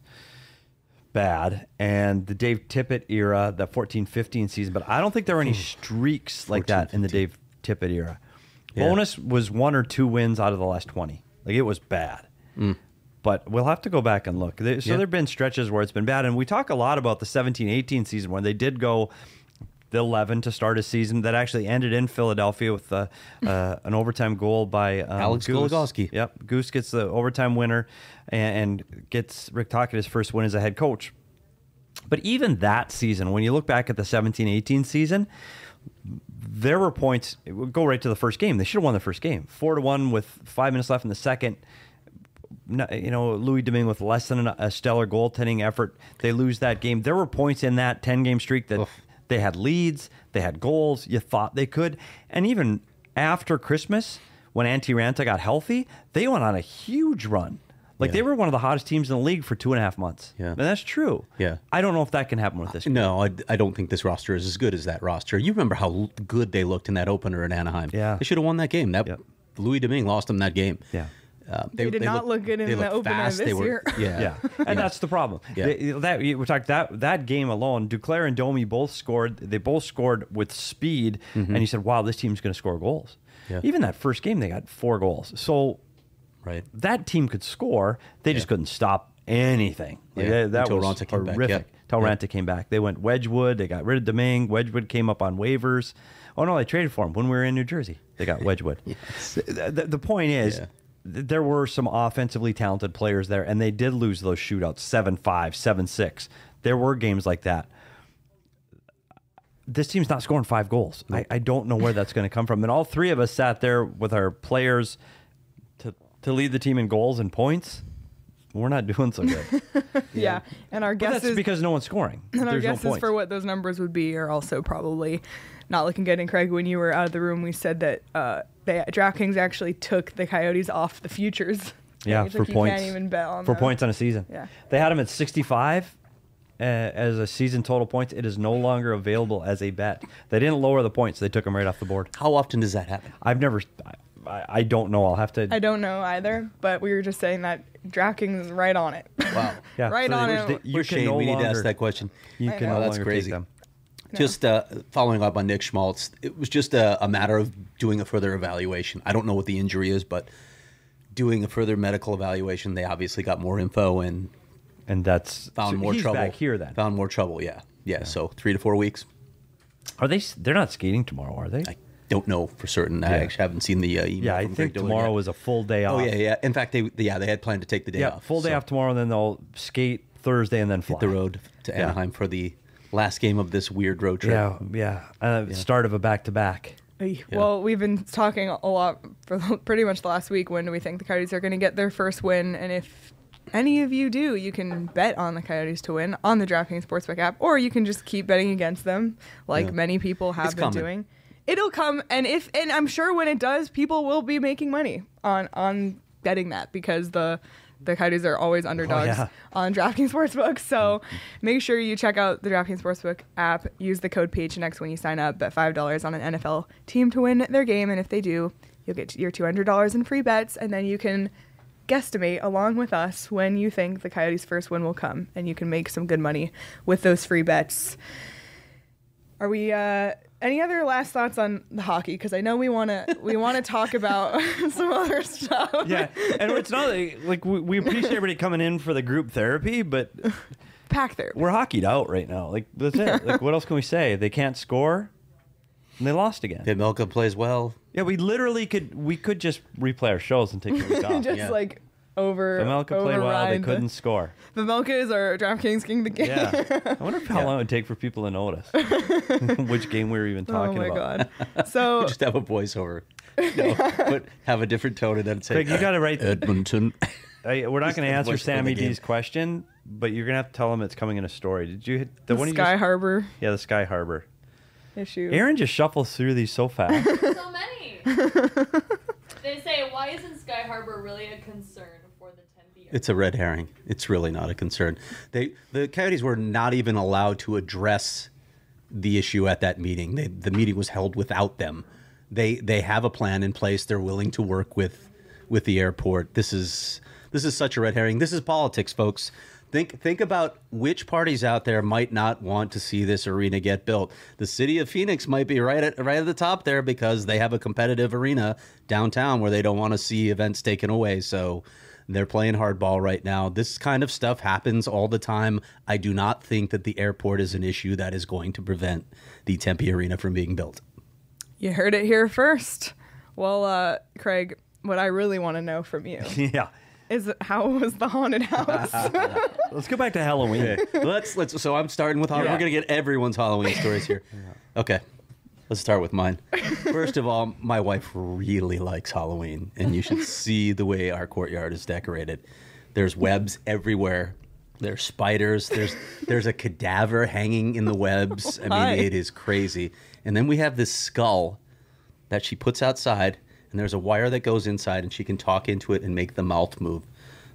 bad. And the Dave Tippett era, the fourteen fifteen season. But I don't think there were any streaks like that in the Dave Tippett era. Yeah. Bowness was one or two wins out of the last twenty. Like it was bad. But we'll have to go back and look. There- So Yeah. there have been stretches where it's been bad. And we talk a lot about the seventeen eighteen season when they did go the eleven to start a season that actually ended in Philadelphia with uh, uh, an overtime goal by um, Alex Goose. Goligoski. Yep. Goose gets the overtime winner and, and gets Rick Tocchet his first win as a head coach. But even that season, when you look back at the seventeen eighteen season, there were points. It would go right to the first game. They should have won the first game, four to one with five minutes left in the second. No- You know, Louis Domingue with less than a stellar goaltending effort, they lose that game. There were points in that ten game streak that Oof. they had leads, they had goals. You thought they could, and even after Christmas, when Antti Ranta got healthy, they went on a huge run. Like Yeah. they were one of the hottest teams in the league for two and a half months. Yeah. And that's true. Yeah. I don't know if that can happen with this. group. No, I, I don't think this roster is as good as that roster. You remember how l- good they looked in that opener in Anaheim. Yeah. They should have won that game. That Yep. Louis Domingue lost them that game. Yeah. Uh, They did not look good in they the looked opener fast. this They were, year. Yeah. Yeah, and that's the problem. Yeah. They- that we talked that that game alone, Duclair and Domi both scored. They both scored with speed, and you said, "Wow, this team's going to score goals." Mm-hmm. Yeah. Even that first game, they got four goals. So Right. that team could score. They just Yeah. couldn't stop anything. Like, Yeah, that that until was Raanta came back, horrific. yeah. Until Yeah. Raanta came back, they went Wedgwood. They got rid of Domingue. Wedgwood came up on waivers. Oh no, they traded for him when we were in New Jersey. They got Wedgwood. the, the, the point is. Yeah. th- There were some offensively talented players there, and they did lose those shootouts seven five, seven six. There were games like that. This team's not scoring five goals. I, I don't know where that's going to come from. And all three of us sat there with our players to, to lead the team in goals and points. We're not doing so good. Yeah. And our But that's guesses because no one's scoring. and our There's no guesses points. for what those numbers would be are also probably not looking good. And Craig, when you were out of the room, we said that uh, they, DraftKings actually took the Coyotes off the futures. Yeah, It's for like you points. can't even bet on for them. points on a season. Yeah. They had them at sixty-five uh, as a season total points. It is no longer available as a bet. They didn't lower the points. They took them right off the board. How often does that happen? I've never. I, I don't know. I'll have to. I don't know either, but we were just saying that DraftKings is right on it. Wow. Yeah, right so on they- it. they- you Where's can Shane? no we need to longer- ask that question. You I can know. no Oh, that's longer crazy. take them. Just uh, following up on Nick Schmaltz, it was just a, a matter of doing a further evaluation. I don't know what the injury is, but doing a further medical evaluation, they obviously got more info and And that's found so more he's trouble. back here then. Found more trouble, yeah. yeah. So three to four weeks. Are they? They're not skating tomorrow, are they? I don't know for certain. I Yeah. actually haven't seen the uh, email. yeah, I from think Greg Dillon tomorrow yet. was a full day off. Oh yeah, yeah. In fact, they yeah they had planned to take the day Yeah, off. full day so off tomorrow, and then they'll skate Thursday and then fly hit the road to Yeah. Anaheim for the last game of this weird road trip. Yeah, yeah. Uh, Start of a back to back. Ay, Well, we've been talking a lot for pretty much the last week. When do we think the Coyotes are going to get their first win? And if any of you do, you can bet on the Coyotes to win on the DraftKings Sportsbook app, or you can just keep betting against them, like Yeah. many people have It's been coming. doing. It'll come, and if and I'm sure when it does, people will be making money on on betting that because the the Coyotes are always underdogs yeah. on DraftKings Sportsbook. So make sure you check out the DraftKings Sportsbook app. Use the code P H N X when you sign up. Bet five dollars on an N F L team to win their game. And if they do, you'll get your two hundred dollars in free bets. And then you can guesstimate along with us when you think the Coyotes' first win will come. And you can make some good money with those free bets. Are we... uh Any other last thoughts on the hockey? Because I know we want to we want to talk about some other stuff. Yeah, and it's not like, like we, we appreciate everybody coming in for the group therapy, but Pack therapy. we're hockeyed out right now. Like that's it. Like what else can we say? They can't score, and they lost again. Vejmelka plays well. Yeah, we literally could we could just replay our shows and take a week off. Just Yeah. like over. Vejmelka played well. They override the- couldn't score. Vejmelka is our DraftKings king of the game. Yeah, I wonder how long it would take for people to notice which game we were even Oh talking my about. god. So Just have a voiceover. No, but have a different tone and then say, Craig, you got to write. Edmonton. I, we're not going to the answer voice for the Sammy game. D's question, but you're going to have to tell him it's coming in a story. Did you hit the, the one you Sky just- Harbor Yeah, the Sky Harbor. issue. Aaron just shuffles through these so fast. So many. They say, why isn't Sky Harbor really a concern for the Tempe? It's a red herring. It's really not a concern. They the Coyotes were not even allowed to address the issue at that meeting. They, the meeting was held without them. They they have a plan in place. They're willing to work with with the airport. This is this is such a red herring. This is politics, folks. Think think about which parties out there might not want to see this arena get built. The city of Phoenix might be right at right at the top there because they have a competitive arena downtown where they don't want to see events taken away. So they're playing hardball right now. This kind of stuff happens all the time. I do not think that the airport is an issue that is going to prevent the Tempe Arena from being built. You heard it here first. Well, uh, Craig, what I really want to know from you yeah. is how was the haunted house? Let's go back to Halloween. let's let's. So I'm starting with. Yeah. We're gonna get everyone's Halloween stories here. Okay, let's start with mine. First of all, my wife really likes Halloween, and you should see the way our courtyard is decorated. There's webs everywhere. There's spiders. There's there's a cadaver hanging in the webs. I Why? mean, it is crazy. And then we have this skull that she puts outside, and there's a wire that goes inside, and she can talk into it and make the mouth move.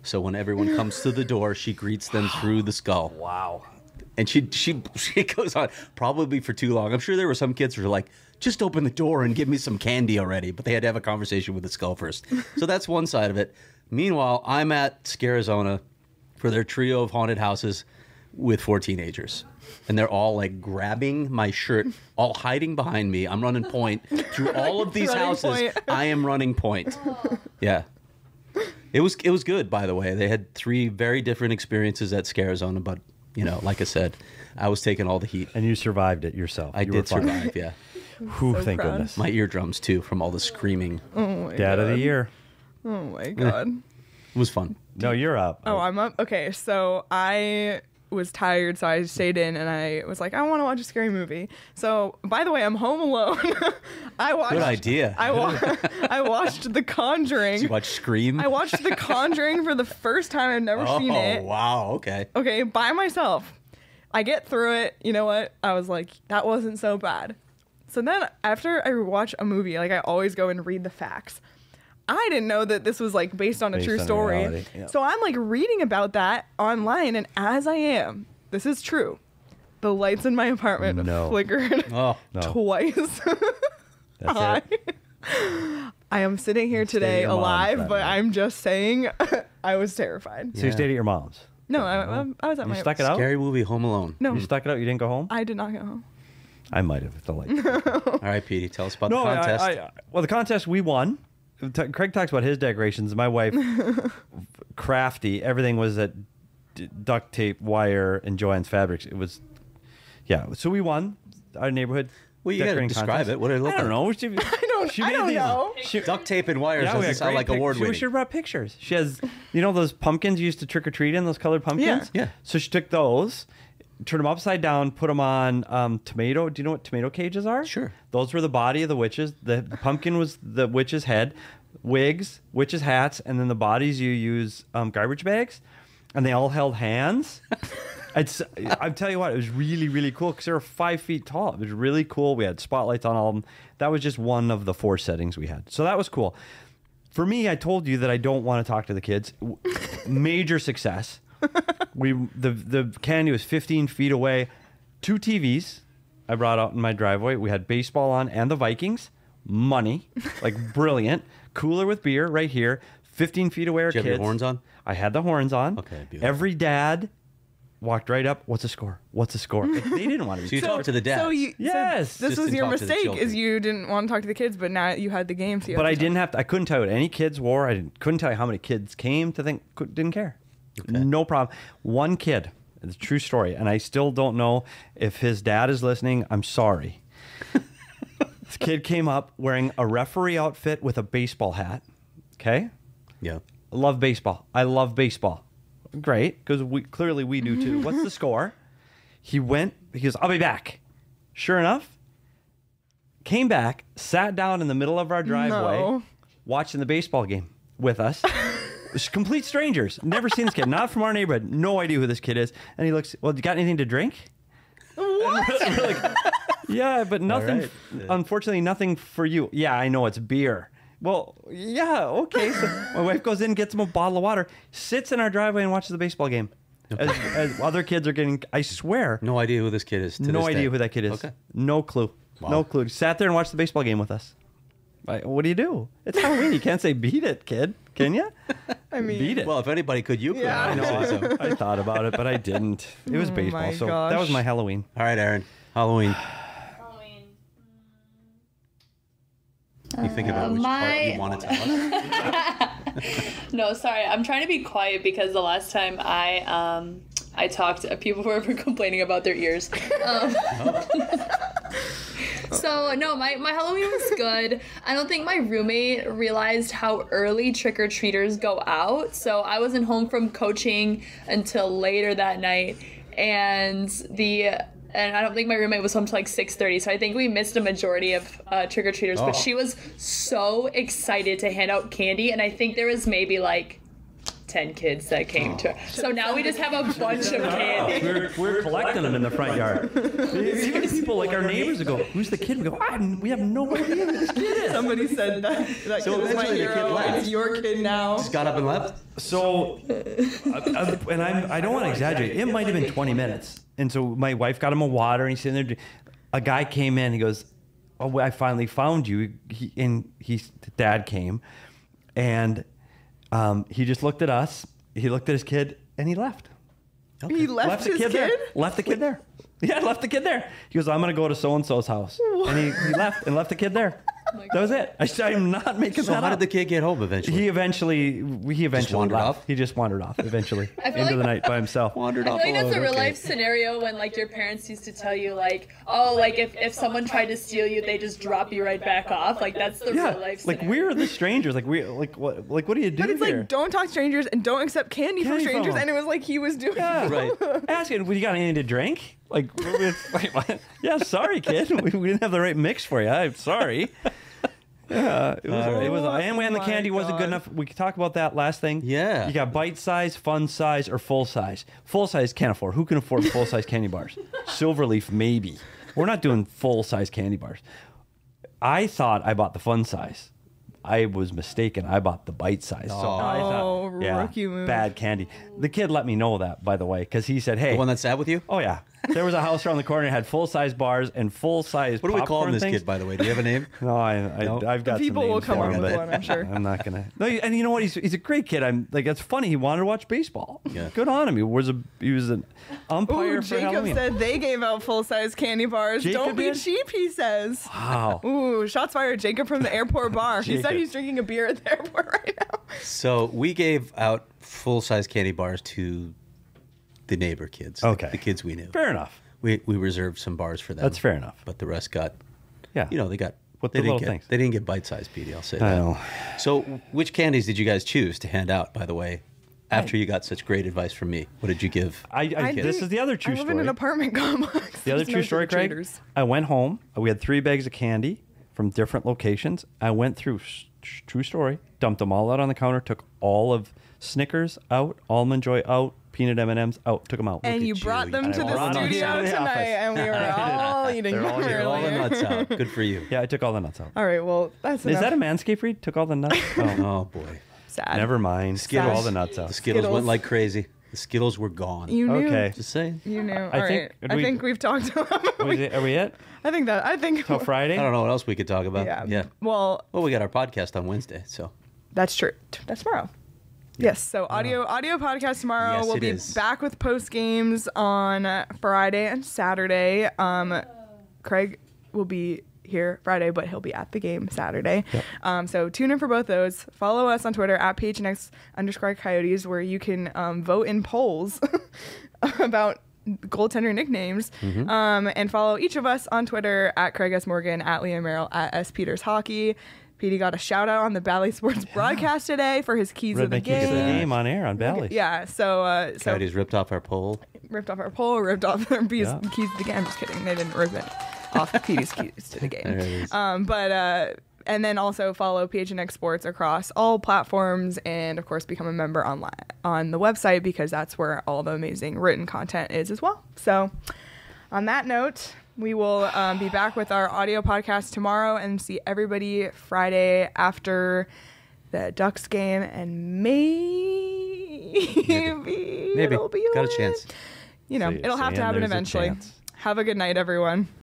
So when everyone comes to the door, she greets them through the skull. Wow. And she she she goes on probably for too long. I'm sure there were some kids who were like, just open the door and give me some candy already. But they had to have a conversation with the skull first. So that's one side of it. Meanwhile, I'm at Scarizona for their trio of haunted houses with four teenagers. And they're all like grabbing my shirt, all hiding behind me. I'm running point through all of these Running houses. point. I am running point. Yeah. It was it was good, by the way. They had three very different experiences at Scarizona, but you know, like I said, I was taking all the heat. And you survived it yourself. I You were did fine. survive, yeah. Whew, So thank proud. goodness. My eardrums too, from all the screaming. Oh my Dad god. of the year. Oh my god. It was fun. No, you're up. Oh, I'm up. Okay, so I was tired, so I stayed in, and I was like, I want to watch a scary movie. So, by the way, I'm home alone. I watched. Good idea. I wa- I watched The Conjuring. Did you watch Scream? I watched The Conjuring for the first time. I've never oh, seen it. wow. Okay. Okay, by myself. I get through it. You know what? I was like, that wasn't so bad. So then, after I watch a movie, like I always go and read the facts. I didn't know that this was like based on a Based true on story. reality, yeah. So I'm like reading about that online, and as I am, this is true. The lights in my apartment No. flickered Oh, No. twice. That's I, it. I am sitting here stayed at today your mom's alive, that but night. I'm just saying I was terrified. So you stayed at your mom's. No, I, I, I was at You my. stuck it out? scary movie, Home Alone. No, You stuck it out? You didn't go home? I did not go home. I might have. The light. All right, Petey, tell us about No, the I, contest. I, I, well, the contest we won. T- Craig talks about his decorations. My wife, crafty. Everything was at d- duct tape, wire, and Joann's fabrics. It was, yeah. So we won our neighborhood. Well, you gotta decorating describe contest. it. What did it look I don't like? know. She, I don't. she I made don't these- know. She, Duct tape and wires yeah, we doesn't had sound great like pic- award She winning. should have brought pictures. She has, you know, those pumpkins you used to trick or treat in, those colored pumpkins. Yeah. Yeah. So she took those, turned them upside down, put them on um, tomato. Do you know what tomato cages are? Sure. Those were the body of the witches. The, the pumpkin was the witch's head, wigs, witches' hats, and then the bodies you use um, garbage bags, and they all held hands. It's, I'm telling you what, it was really, really cool because they were five feet tall. It was really cool. We had spotlights on all of them. That was just one of the four settings we had. So that was cool. For me, I told you that I don't want to talk to the kids. W- Major success. We the the candy was fifteen feet away. Two T Vs I brought out in my driveway. We had baseball on and the Vikings. Money, like brilliant. Cooler with beer right here. fifteen feet away are Did you have kids. your horns on? I had the horns on. Okay, beautiful. Every dad walked right up. What's the score? What's the score? They didn't want to. So be you talked to the dads. So you, Yes. so this Just was didn't your talk to the mistake, children. is you didn't want to talk to the kids, but now you had the game. So you But have I to didn't talk. have to, I couldn't tell you what any kids wore. I didn't, couldn't tell you how many kids came to think, could, didn't care. No problem. One kid, it's a true story, and I still don't know if his dad is listening. I'm sorry. This kid came up wearing a referee outfit with a baseball hat. Okay? Yeah. I love baseball. I love baseball. Great, because we clearly we do too. What's the score? He went, he goes, I'll be back. Sure enough, came back, sat down in the middle of our driveway, No. watching the baseball game with us. It's complete strangers. Never seen this kid. Not from our neighborhood. No idea who this kid is. And he looks, well, you got anything to drink? What? We're like, yeah, but nothing, right. unfortunately, nothing for you. Yeah, I know it's beer. Well, yeah, okay. So my wife goes in, gets him a bottle of water, sits in our driveway and watches the baseball game. As, as other kids are getting, I swear, No idea who this kid is. To no this idea day. who that kid is. Okay. No clue. Wow. No clue. Sat there and watched the baseball game with us. Like, what do you do? It's Halloween. You can't say beat it, kid. Can you? I mean, Beat it. Well, if anybody could, you could. Yeah. I know. So- I, I thought about it, but I didn't. It was Oh baseball, my so that was gosh. my Halloween. All right, Aaron. Halloween. Halloween. You think about which part my- you want to tell us. No, sorry. I'm trying to be quiet because the last time I um I talked, uh, people were complaining about their ears. Um, so no, my my Halloween was good. I don't think my roommate realized how early trick or treaters go out. So I wasn't home from coaching until later that night, and the. And I don't think my roommate was home till like six thirty, so I think we missed a majority of uh, trick-or-treaters. Oh. But she was so excited to hand out candy, and I think there was maybe like ten kids that came to. So now we just have a bunch of candy. We're, we're collecting them in the front yard. Even people like our neighbors would go, "Who's the kid?" We go, I, "We have no idea who this kid is." Somebody said that. That So kid is my eventually the kid hero. left. It's your kid now. Just got up and left. So, uh, uh, and I'm, I don't want to exaggerate. It might have been twenty minutes. And so my wife got him a water, and he's sitting there. A guy came in. He goes, "Oh, I finally found you." He, and he's dad came, and um, he just looked at us. He looked at his kid, and he left. He left, the his kid, kid? there. Left the kid there. Yeah, left the kid there. He goes, "I'm gonna go to so and so's house," and he, he left and left the kid there. That was it. I, I'm not making So that how up. did the kid get home eventually? He eventually, he eventually wandered left. off? He just wandered off eventually I feel into like- the night by himself. wandered I off feel like that's a alone, real okay. life scenario when like your parents used to tell you like, oh, like if, if someone tried to steal you, they just drop you right back off. Like that's the Yeah, real life like scenario. we're the strangers. Like we, like what, like what do you do But it's here? like, don't talk to strangers and don't accept candy, Candy from from strangers. them. And it was like he was doing Yeah. Right. Asking, "Well, you got anything to drink?" Like, it's like what? Yeah, sorry, kid. We, we didn't have the right mix for you. I'm sorry. Yeah, it was. All It was. right. And when the Oh candy my wasn't good God. enough, we could talk about that last thing. Yeah. You got bite size, fun size, or full size. Full size can't afford. Who can afford full size candy bars? Silverleaf, maybe. We're not doing full size candy bars. I thought I bought the fun size. I was mistaken. I bought the bite size. So I Oh, thought, yeah, rookie move. bad candy. The kid let me know that, by the way, because he said, "Hey, The one that sat with you? oh yeah, there was a house around the corner that had full size bars and full size." What do we call popcorn this things. kid, by the way? Do you have a name? No, I, I No? I've got People some will names come for up him, with but one, I'm sure. I'm not gonna. No, and you know what? He's he's a great kid. I'm like that's funny. He wanted to watch baseball. Yeah. Good on him. He was a he was an umpire Ooh, for Jacob Halloween. said they gave out full size candy bars. Jacob Don't be did? cheap, he says. Wow. Ooh, shots fired. Jacob from the airport bar. He said Jacob. he's drinking a beer at the airport right now. So we gave out full-size candy bars to the neighbor kids. the- Okay. The kids we knew. Fair enough. We we reserved some bars for them. That's fair enough. But the rest got, Yeah. you know, they got. With they the didn't little get, things. They didn't get bite-sized, Petey. I'll say I that. know. So, which candies did you guys choose to hand out? By the way, after you got such great advice from me, what did you give? I, I, I this think- is the other true I live story. in an apartment complex. The other There's true no story, Craig. trick-or-treaters. I went home. We had three bags of candy from different locations. I went through, s- true story, dumped them all out on the counter, took all of Snickers out, Almond Joy out, peanut M and M's out, took them out. And at you you. brought them And to I brought the them studio to the tonight, office. and we were all eating They're them all here, All the earlier. nuts out. Good for you. Yeah, I took all the nuts out. All right, well, that's Is enough. that a Manscaped read? Took all the nuts? Oh, Oh boy. sad? never mind. Took all the nuts The out. Skittles, Skittles. went like crazy. The Skittles were gone. You knew. Okay. Just saying. You knew. I All think- right. do I we- think we've talked about Was it- Are we it? I think that. I think. Till Friday? I don't know what else we could talk about. Yeah. Yeah. Well, Well, we got our podcast on Wednesday, so that's true. That's tomorrow. Yes. So audio audio podcast tomorrow. Yes, we'll it be is. back with post games on uh, Friday and Saturday. Um, Craig will be here Friday, but he'll be at the game Saturday. Um, so tune in for both those. Follow us on Twitter at P H N X underscore Coyotes, where you can um, vote in polls about goaltender nicknames. Mm-hmm. Um, and follow each of us on Twitter at Craig S. Morgan, at Liam Merrill, at S. Peters Hockey. Petey got a shout out on the Bally Sports broadcast today for his keys Read of the my keys of the game. game on air on Valley. Yeah, so uh, so Coyotes ripped off our poll. ripped off our pole, ripped off their keys, Yeah. keys to the game. I'm just kidding. They didn't rip it off Petey's keys to the There game. it is. Um, but uh, and then also follow P H N X Sports across all platforms, and of course become a member online on the website, because that's where all the amazing written content is as well. So on that note, we will um, be back with our audio podcast tomorrow and see everybody Friday after the Ducks game, and maybe, Maybe. it'll be Got a win. chance. You know, Say- it'll have to saying happen there's a eventually. chance. Have a good night, everyone.